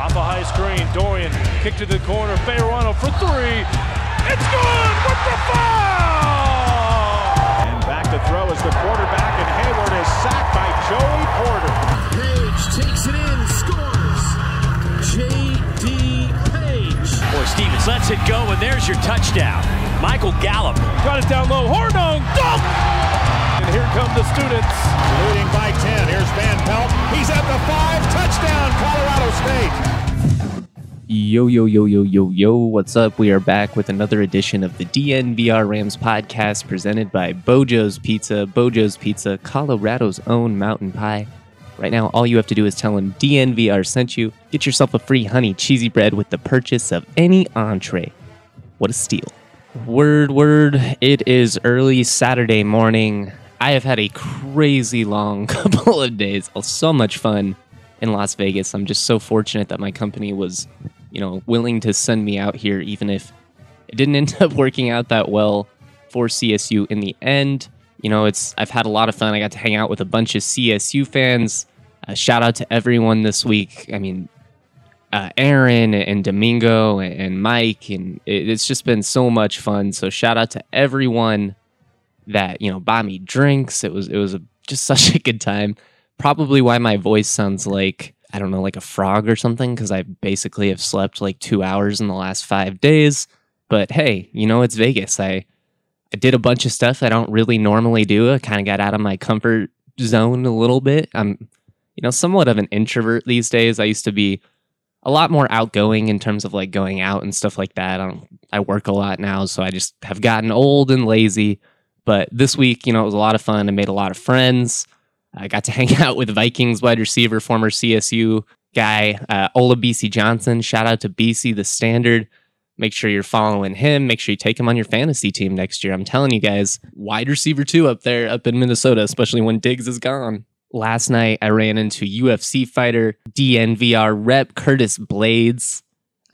Off a high screen, Dorian kick to the corner, Fayerano for three. It's good with the foul! And back to throw is the quarterback, and Hayward is sacked by Joey Porter. Page takes it in, scores. J.D. Page. Boy, Stevens lets it go, and there's your touchdown. Michael Gallup. Got it down low, Hornung, dunk! And here come the students. Leading by 10, here's Van Pelt. He's at the 5, touchdown, Colorado State. Yo, what's up? We are back with another edition of the DNVR Rams podcast presented by Bojo's Pizza. Bojo's Pizza, Colorado's own mountain pie. Right now, all you have to do is tell them DNVR sent you. Get yourself a free honey cheesy bread with the purchase of any entree. What a steal. Word. It is early Saturday morning. I have had a crazy long couple of days. So much fun in Las Vegas. I'm just so fortunate that my company was, willing to send me out here, even if it didn't end up working out that well for CSU in the end. I've had a lot of fun. I got to hang out with a bunch of CSU fans. Shout out to everyone this week. Aaron and Domingo and Mike, and it's just been so much fun. So shout out to everyone that bought me drinks. It was just such a good time. Probably why my voice sounds like, I don't know, like a frog or something, because I basically have slept like 2 hours in the last 5 days. But hey, it's Vegas. I did a bunch of stuff I don't really normally do. I kind of got out of my comfort zone a little bit. I'm, somewhat of an introvert these days. I used to be a lot more outgoing in terms of like going out and stuff like that. I work a lot now, so I just have gotten old and lazy. But this week, it was a lot of fun. I made a lot of friends. I got to hang out with Vikings wide receiver, former CSU guy, Olabisi Johnson. Shout out to BC the Standard. Make sure you're following him. Make sure you take him on your fantasy team next year. I'm telling you guys, wide receiver 2 up there, up in Minnesota, especially when Diggs is gone. Last night, I ran into UFC fighter, DNVR rep, Curtis Blades.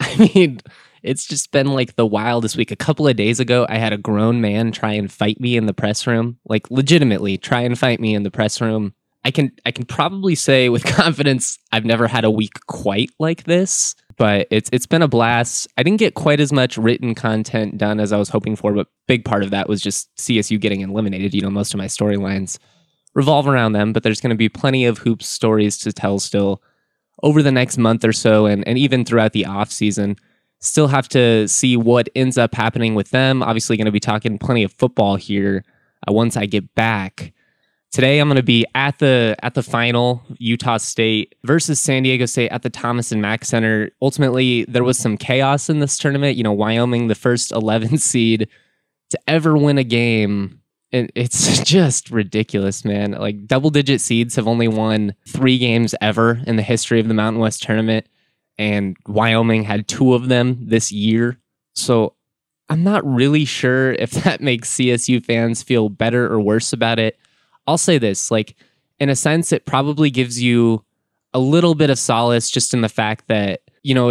It's just been like the wildest week. A couple of days ago, I had a grown man try and fight me in the press room. Like legitimately try and fight me in the press room. I can probably say with confidence I've never had a week quite like this, but it's been a blast. I didn't get quite as much written content done as I was hoping for, but big part of that was just CSU getting eliminated. Most of my storylines revolve around them, but there's going to be plenty of hoops stories to tell still over the next month or so, and even throughout the off season. Still have to see what ends up happening with them. Obviously going to be talking plenty of football here once I get back. Today I'm going to be at the final, Utah State versus San Diego State at the Thomas and Mack Center. Ultimately, there was some chaos in this tournament. Wyoming, the first 11 seed to ever win a game. And it's just ridiculous, man. Like double-digit seeds have only won 3 games ever in the history of the Mountain West tournament. And Wyoming had 2 of them this year. So I'm not really sure if that makes CSU fans feel better or worse about it. I'll say this, in a sense, it probably gives you a little bit of solace just in the fact that,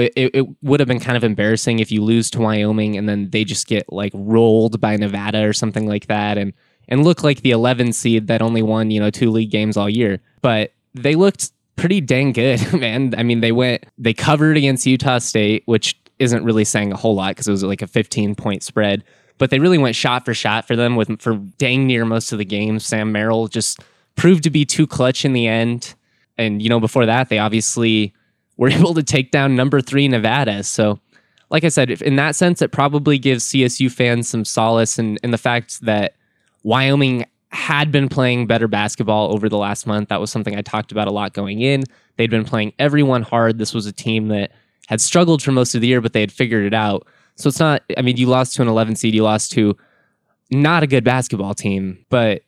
it would have been kind of embarrassing if you lose to Wyoming and then they just get rolled by Nevada or something like that and look like the 11 seed that only won, 2 league games all year. But they looked pretty dang good, man. They covered against Utah State, which isn't really saying a whole lot because it was like a 15-point spread, but they really went shot for shot for them for dang near most of the games. Sam Merrill just proved to be too clutch in the end. And, before that, they obviously were able to take down number 3 Nevada. So like I said, in that sense, it probably gives CSU fans some solace in the fact that Wyoming had been playing better basketball over the last month. That was something I talked about a lot going in. They'd been playing everyone hard. This was a team that had struggled for most of the year, but they had figured it out. So it's not, you lost to an 11 seed, you lost to not a good basketball team, but,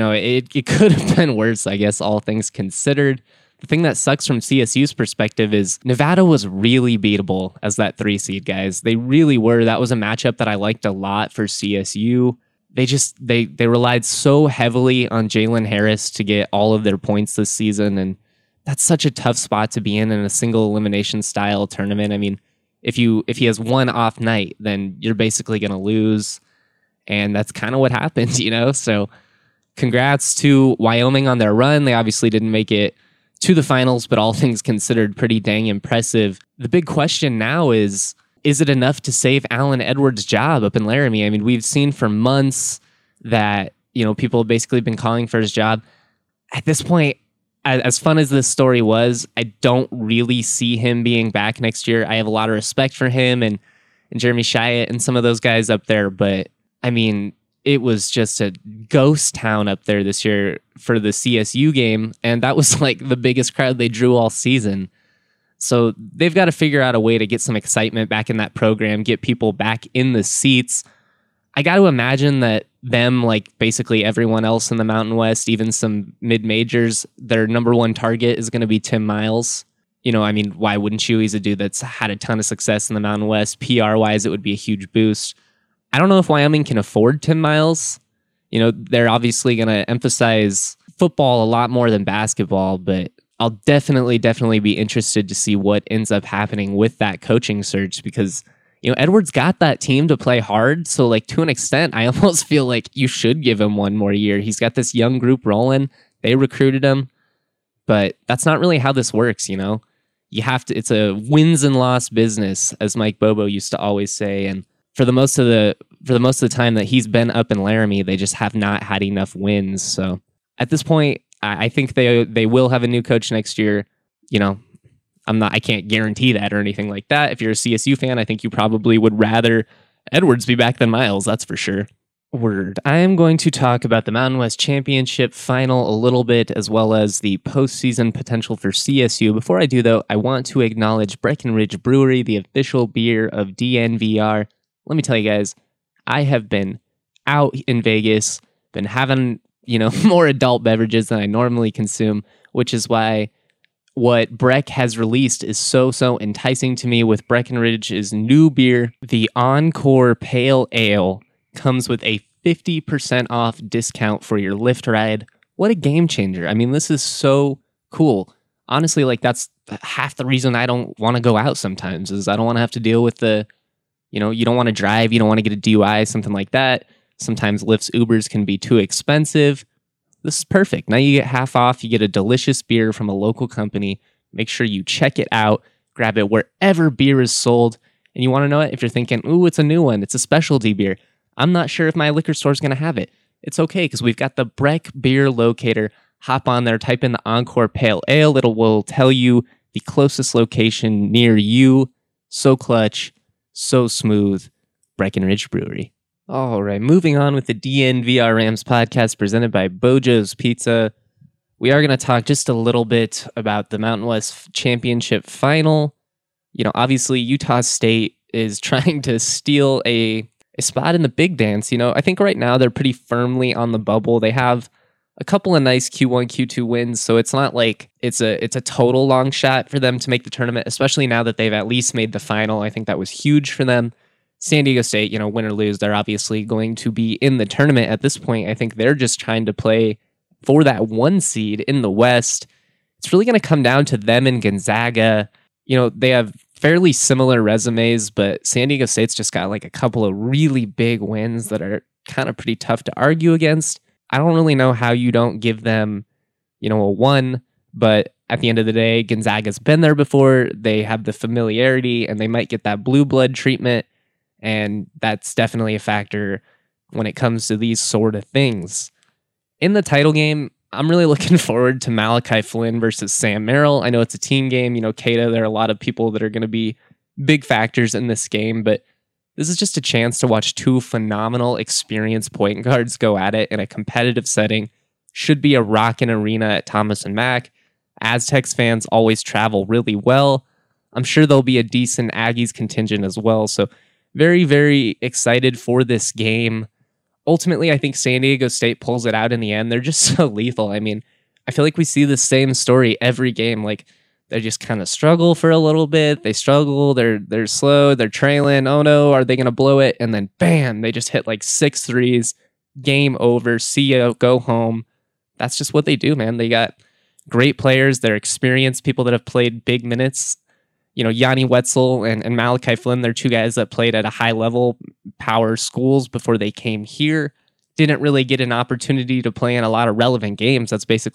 it could have been worse, I guess, all things considered. The thing that sucks from CSU's perspective is Nevada was really beatable as that 3 seed, guys. They really were. That was a matchup that I liked a lot for CSU. They relied so heavily on Jalen Harris to get all of their points this season, and that's such a tough spot to be in a single elimination style tournament. If he has one off night, then you're basically going to lose, and that's kind of what happened, So congrats to Wyoming on their run. They obviously didn't make it to the finals, but all things considered, pretty dang impressive. The big question now is it enough to save Alan Edwards' job up in Laramie? I mean, we've seen for months that, people have basically been calling for his job. At this point, as fun as this story was, I don't really see him being back next year. I have a lot of respect for him and Jeremy Chiat and some of those guys up there, but I mean, it was just a ghost town up there this year for the CSU game, and that was like the biggest crowd they drew all season. So they've got to figure out a way to get some excitement back in that program, get people back in the seats. I got to imagine that them, like basically everyone else in the Mountain West, even some mid-majors, their number one target is going to be Tim Miles. I mean, why wouldn't you? He's a dude that's had a ton of success in the Mountain West. PR-wise, it would be a huge boost. I don't know if Wyoming can afford Tim Miles. They're obviously going to emphasize football a lot more than basketball, but I'll definitely be interested to see what ends up happening with that coaching search because, Edwards got that team to play hard. So like to an extent, I almost feel like you should give him one more year. He's got this young group rolling. They recruited him, but that's not really how this works. You have to, it's a wins and loss business, as Mike Bobo used to always say. And for the most of the time that he's been up in Laramie, they just have not had enough wins. So at this point, I think they will have a new coach next year. I can't guarantee that or anything like that. If you're a CSU fan, I think you probably would rather Edwards be back than Miles. That's for sure. Word. I am going to talk about the Mountain West Championship final a little bit, as well as the postseason potential for CSU. Before I do, though, I want to acknowledge Breckenridge Brewery, the official beer of DNVR. Let me tell you guys, I have been out in Vegas, been having, more adult beverages than I normally consume, which is why what Breck has released is so enticing to me with Breckenridge's new beer. The Encore Pale Ale comes with a 50% off discount for your Lyft ride. What a game changer. I mean, this is so cool. Honestly, like that's half the reason I don't want to go out sometimes is I don't want to have to deal with the, you don't want to drive, you don't want to get a DUI, something like that. Sometimes Lyft's Ubers can be too expensive. This is perfect. Now you get half off. You get a delicious beer from a local company. Make sure you check it out. Grab it wherever beer is sold. And you want to know it? If you're thinking, ooh, it's a new one. It's a specialty beer. I'm not sure if my liquor store is going to have it. It's okay because we've got the Breck Beer Locator. Hop on there. Type in the Encore Pale Ale. It will tell you the closest location near you. So clutch. So smooth. Breckenridge Brewery. All right, moving on with the DNVR Rams podcast presented by Bojo's Pizza. We are going to talk just a little bit about the Mountain West Championship final. Obviously Utah State is trying to steal a spot in the big dance. I think right now they're pretty firmly on the bubble. They have a couple of nice Q1, Q2 wins, so it's not like it's a total long shot for them to make the tournament, especially now that they've at least made the final. I think that was huge for them. San Diego State, win or lose, they're obviously going to be in the tournament at this point. I think they're just trying to play for that one seed in the West. It's really going to come down to them and Gonzaga. They have fairly similar resumes, but San Diego State's just got like a couple of really big wins that are kind of pretty tough to argue against. I don't really know how you don't give them, a 1, but at the end of the day, Gonzaga's been there before. They have the familiarity and they might get that blue blood treatment. And that's definitely a factor when it comes to these sort of things. In the title game, I'm really looking forward to Malachi Flynn versus Sam Merrill. I know it's a team game. Cato, there are a lot of people that are going to be big factors in this game, but this is just a chance to watch two phenomenal, experienced point guards go at it in a competitive setting. Should be a rockin' arena at Thomas and Mack. Aztecs fans always travel really well. I'm sure there'll be a decent Aggies contingent as well, so very, very excited for this game. Ultimately, I think San Diego State pulls it out in the end. They're just so lethal. I mean, I feel like we see the same story every game. Like, they just kind of struggle for a little bit. They struggle. They're slow. They're trailing. Oh, no, are they going to blow it? And then, bam, they just hit like 6 threes. Game over. See ya. Go home. That's just what they do, man. They got great players. They're experienced people that have played big minutes. Yanni Wetzel and Malachi Flynn, they're two guys that played at a high level power schools before they came here. Didn't really get an opportunity to play in a lot of relevant games. That's basically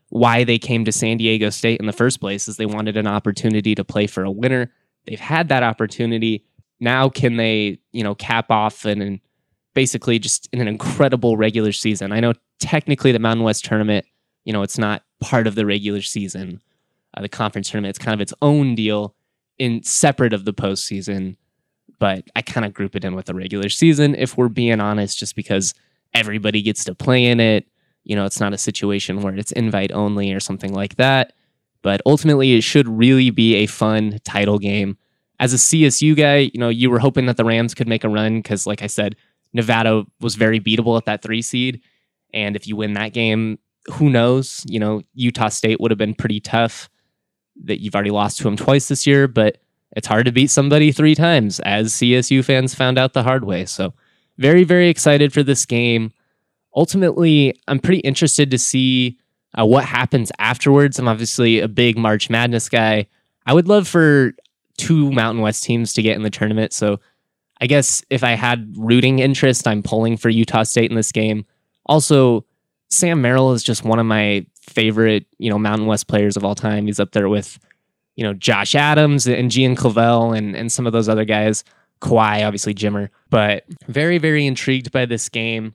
why they came to San Diego State in the first place, is they wanted an opportunity to play for a winner. They've had that opportunity. Now can they, cap off and basically just in an incredible regular season? I know technically the Mountain West tournament, it's not part of the regular season. The conference tournament, it's kind of its own deal in separate of the postseason, but I kind of group it in with the regular season, if we're being honest, just because everybody gets to play in it. It's not a situation where it's invite only or something like that, but ultimately it should really be a fun title game. As a CSU guy, you were hoping that the Rams could make a run because, like I said, Nevada was very beatable at that 3 seed. And if you win that game, who knows? Utah State would have been pretty tough. That you've already lost to them twice this year, but it's hard to beat somebody 3 times, as CSU fans found out the hard way. So very, very excited for this game. Ultimately, I'm pretty interested to see what happens afterwards. I'm obviously a big March Madness guy. I would love for 2 Mountain West teams to get in the tournament. So I guess if I had rooting interest, I'm pulling for Utah State in this game. Also, Sam Merrill is just one of my favorite, Mountain West players of all time. He's up there with, Josh Adams and Gian Clavel and some of those other guys. Kawhi, obviously Jimmer. But very, very intrigued by this game.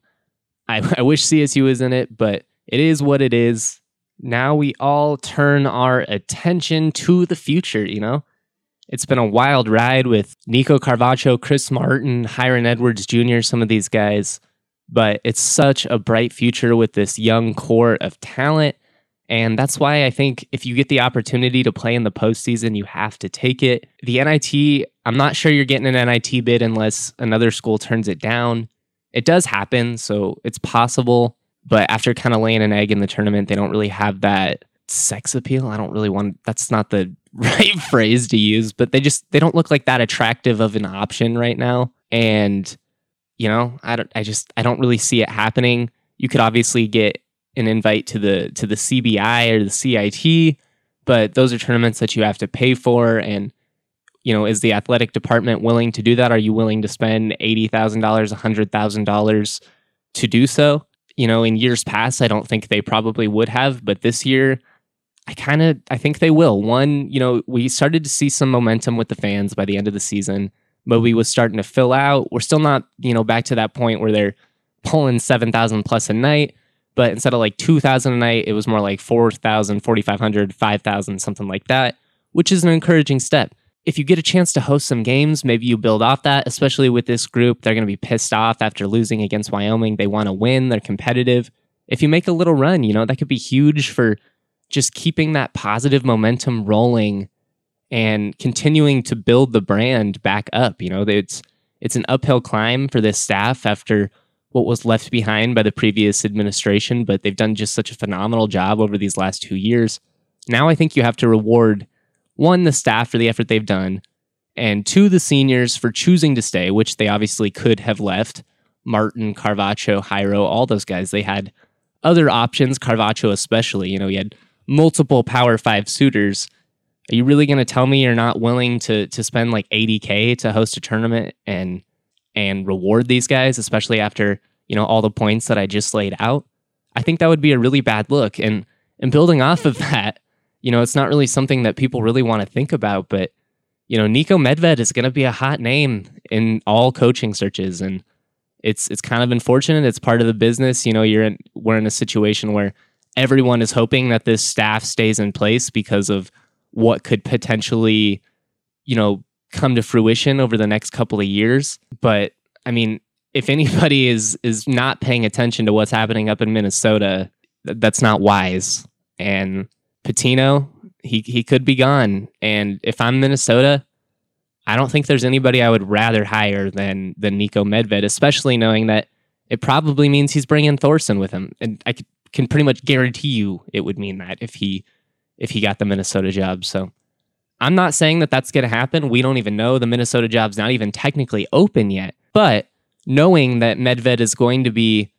I wish CSU was in it, but it is what it is. Now we all turn our attention to the future, It's been a wild ride with Nico Carvacho, Chris Martin, Hiron Edwards Jr., some of these guys. But it's such a bright future with this young core of talent. And that's why I think if you get the opportunity to play in the postseason, you have to take it. The NIT, I'm not sure you're getting an NIT bid unless another school turns it down. It does happen, so it's possible. But after kind of laying an egg in the tournament, they don't really have that sex appeal. That's not the right phrase to use, but they don't look like that attractive of an option right now. And I don't really see it happening. You could obviously get an invite to the CBI or the CIT, but those are tournaments that you have to pay for. And, is the athletic department willing to do that? Are you willing to spend $80,000, $100,000 to do so? In years past, I don't think they probably would have, but this year, I think they will. One, we started to see some momentum with the fans by the end of the season. Moby was starting to fill out. We're still not, back to that point where they're pulling 7,000 plus a night, but instead of like 2,000 a night, it was more like 4,000, 4,500, 5,000, something like that, which is an encouraging step. If you get a chance to host some games, maybe you build off that, especially with this group. They're going to be pissed off after losing against Wyoming. They want to win. They're competitive. If you make a little run, that could be huge for just keeping that positive momentum rolling and continuing to build the brand back up. It's an uphill climb for this staff after what was left behind by the previous administration, but they've done just such a phenomenal job over these last 2 years. Now I think you have to reward, 1, the staff for the effort they've done, and 2, the seniors for choosing to stay, which they obviously could have left. Martin, Carvacho, Jairo, all those guys, they had other options, Carvacho especially. He had multiple Power 5 suitors. Are you really going to tell me you're not willing to spend like $80K to host a tournament and reward these guys, especially after, all the points that I just laid out? I think that would be a really bad look. And building off of that, it's not really something that people really want to think about, but, Niko Medved is going to be a hot name in all coaching searches. And it's kind of unfortunate. It's part of the business. We're in a situation where everyone is hoping that this staff stays in place because of what could potentially, come to fruition over the next couple of years. But I mean, if anybody is not paying attention to what's happening up in Minnesota, that's not wise. And Pitino, he could be gone. And if I'm Minnesota, I don't think there's anybody I would rather hire than Niko Medved, especially knowing that it probably means he's bringing Thorson with him. And I can pretty much guarantee you it would mean that if he got the Minnesota job. So I'm not saying that that's going to happen. We don't even know. The Minnesota job's not even technically open yet. But knowing that Medved is going to be,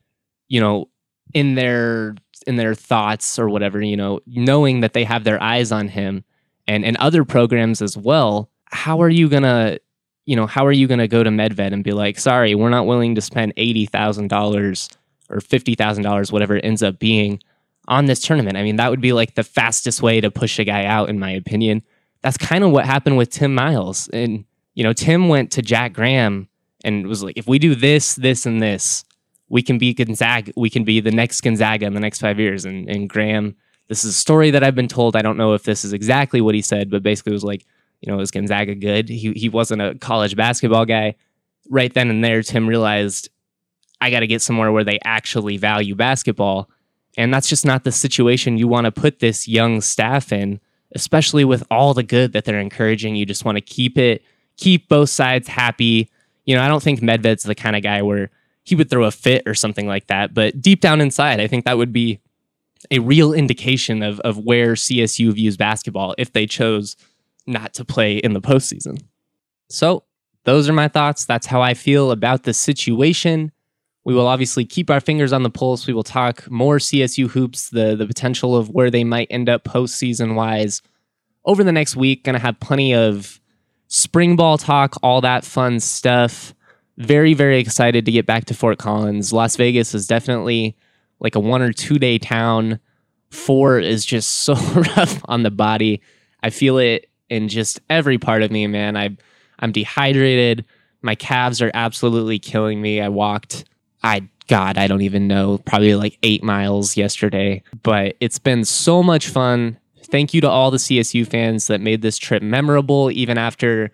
in their thoughts or whatever, knowing that they have their eyes on him and other programs as well, how are you going to go to Medved and be like, sorry, we're not willing to spend $80,000 or $50,000, whatever it ends up being, on this tournament. I mean, that would be like the fastest way to push a guy out, in my opinion. That's kind of what happened with Tim Miles. And, Tim went to Jack Graham and was like, if we do this, this, and this, we can be Gonzaga. We can be the next Gonzaga in the next 5 years. And Graham, this is a story that I've been told. I don't know if this is exactly what he said, but basically it was like, is Gonzaga good? He wasn't a college basketball guy. Right then and there, Tim realized, I got to get somewhere where they actually value basketball. And that's just not the situation you want to put this young staff in, especially with all the good that they're encouraging. You just want to keep both sides happy. I don't think Medved's the kind of guy where he would throw a fit or something like that. But deep down inside, I think that would be a real indication of where CSU views basketball if they chose not to play in the postseason. So those are my thoughts. That's how I feel about the situation. We will obviously keep our fingers on the pulse. We will talk more CSU hoops, the potential of where they might end up postseason-wise over the next week. Going to have plenty of spring ball talk, all that fun stuff. Very, very excited to get back to Fort Collins. Las Vegas is definitely like a 1 or 2 day town. 4 is just so rough on the body. I feel it in just every part of me, man. I'm dehydrated. My calves are absolutely killing me. I walked... I don't even know, probably like 8 miles yesterday, but it's been so much fun. Thank you to all the CSU fans that made this trip memorable, even after,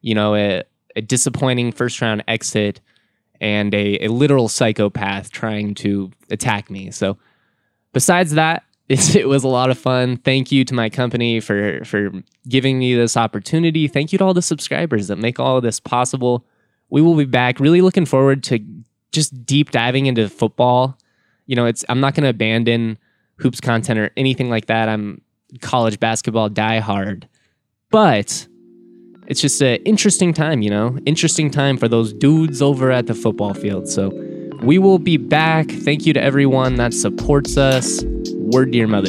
a disappointing first round exit and a literal psychopath trying to attack me. So besides that, it was a lot of fun. Thank you to my company for giving me this opportunity. Thank you to all the subscribers that make all of this possible. We will be back. Really looking forward to just deep diving into football. I'm not going to abandon hoops content or anything like that. I'm college basketball diehard, but it's just an interesting time, interesting time for those dudes over at the football field. So we will be back. Thank you to everyone that supports us. Word to your mother.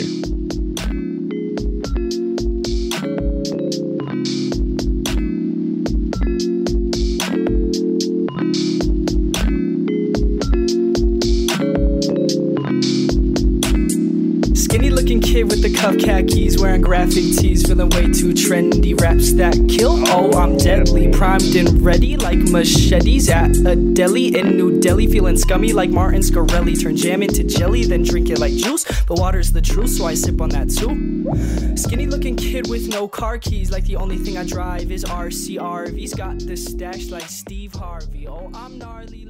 Kid with the cuff khakis, wearing graphic tees, feeling way too trendy. Raps that kill, oh I'm deadly, primed and ready like machetes at a deli in New Delhi. Feeling scummy like Martin Scarelli, turn jam into jelly, then drink it like juice. But water's the truth, so I sip on that too. Skinny looking kid with no car keys, like the only thing I drive is RCRV's got the stash like Steve Harvey. Oh I'm gnarly.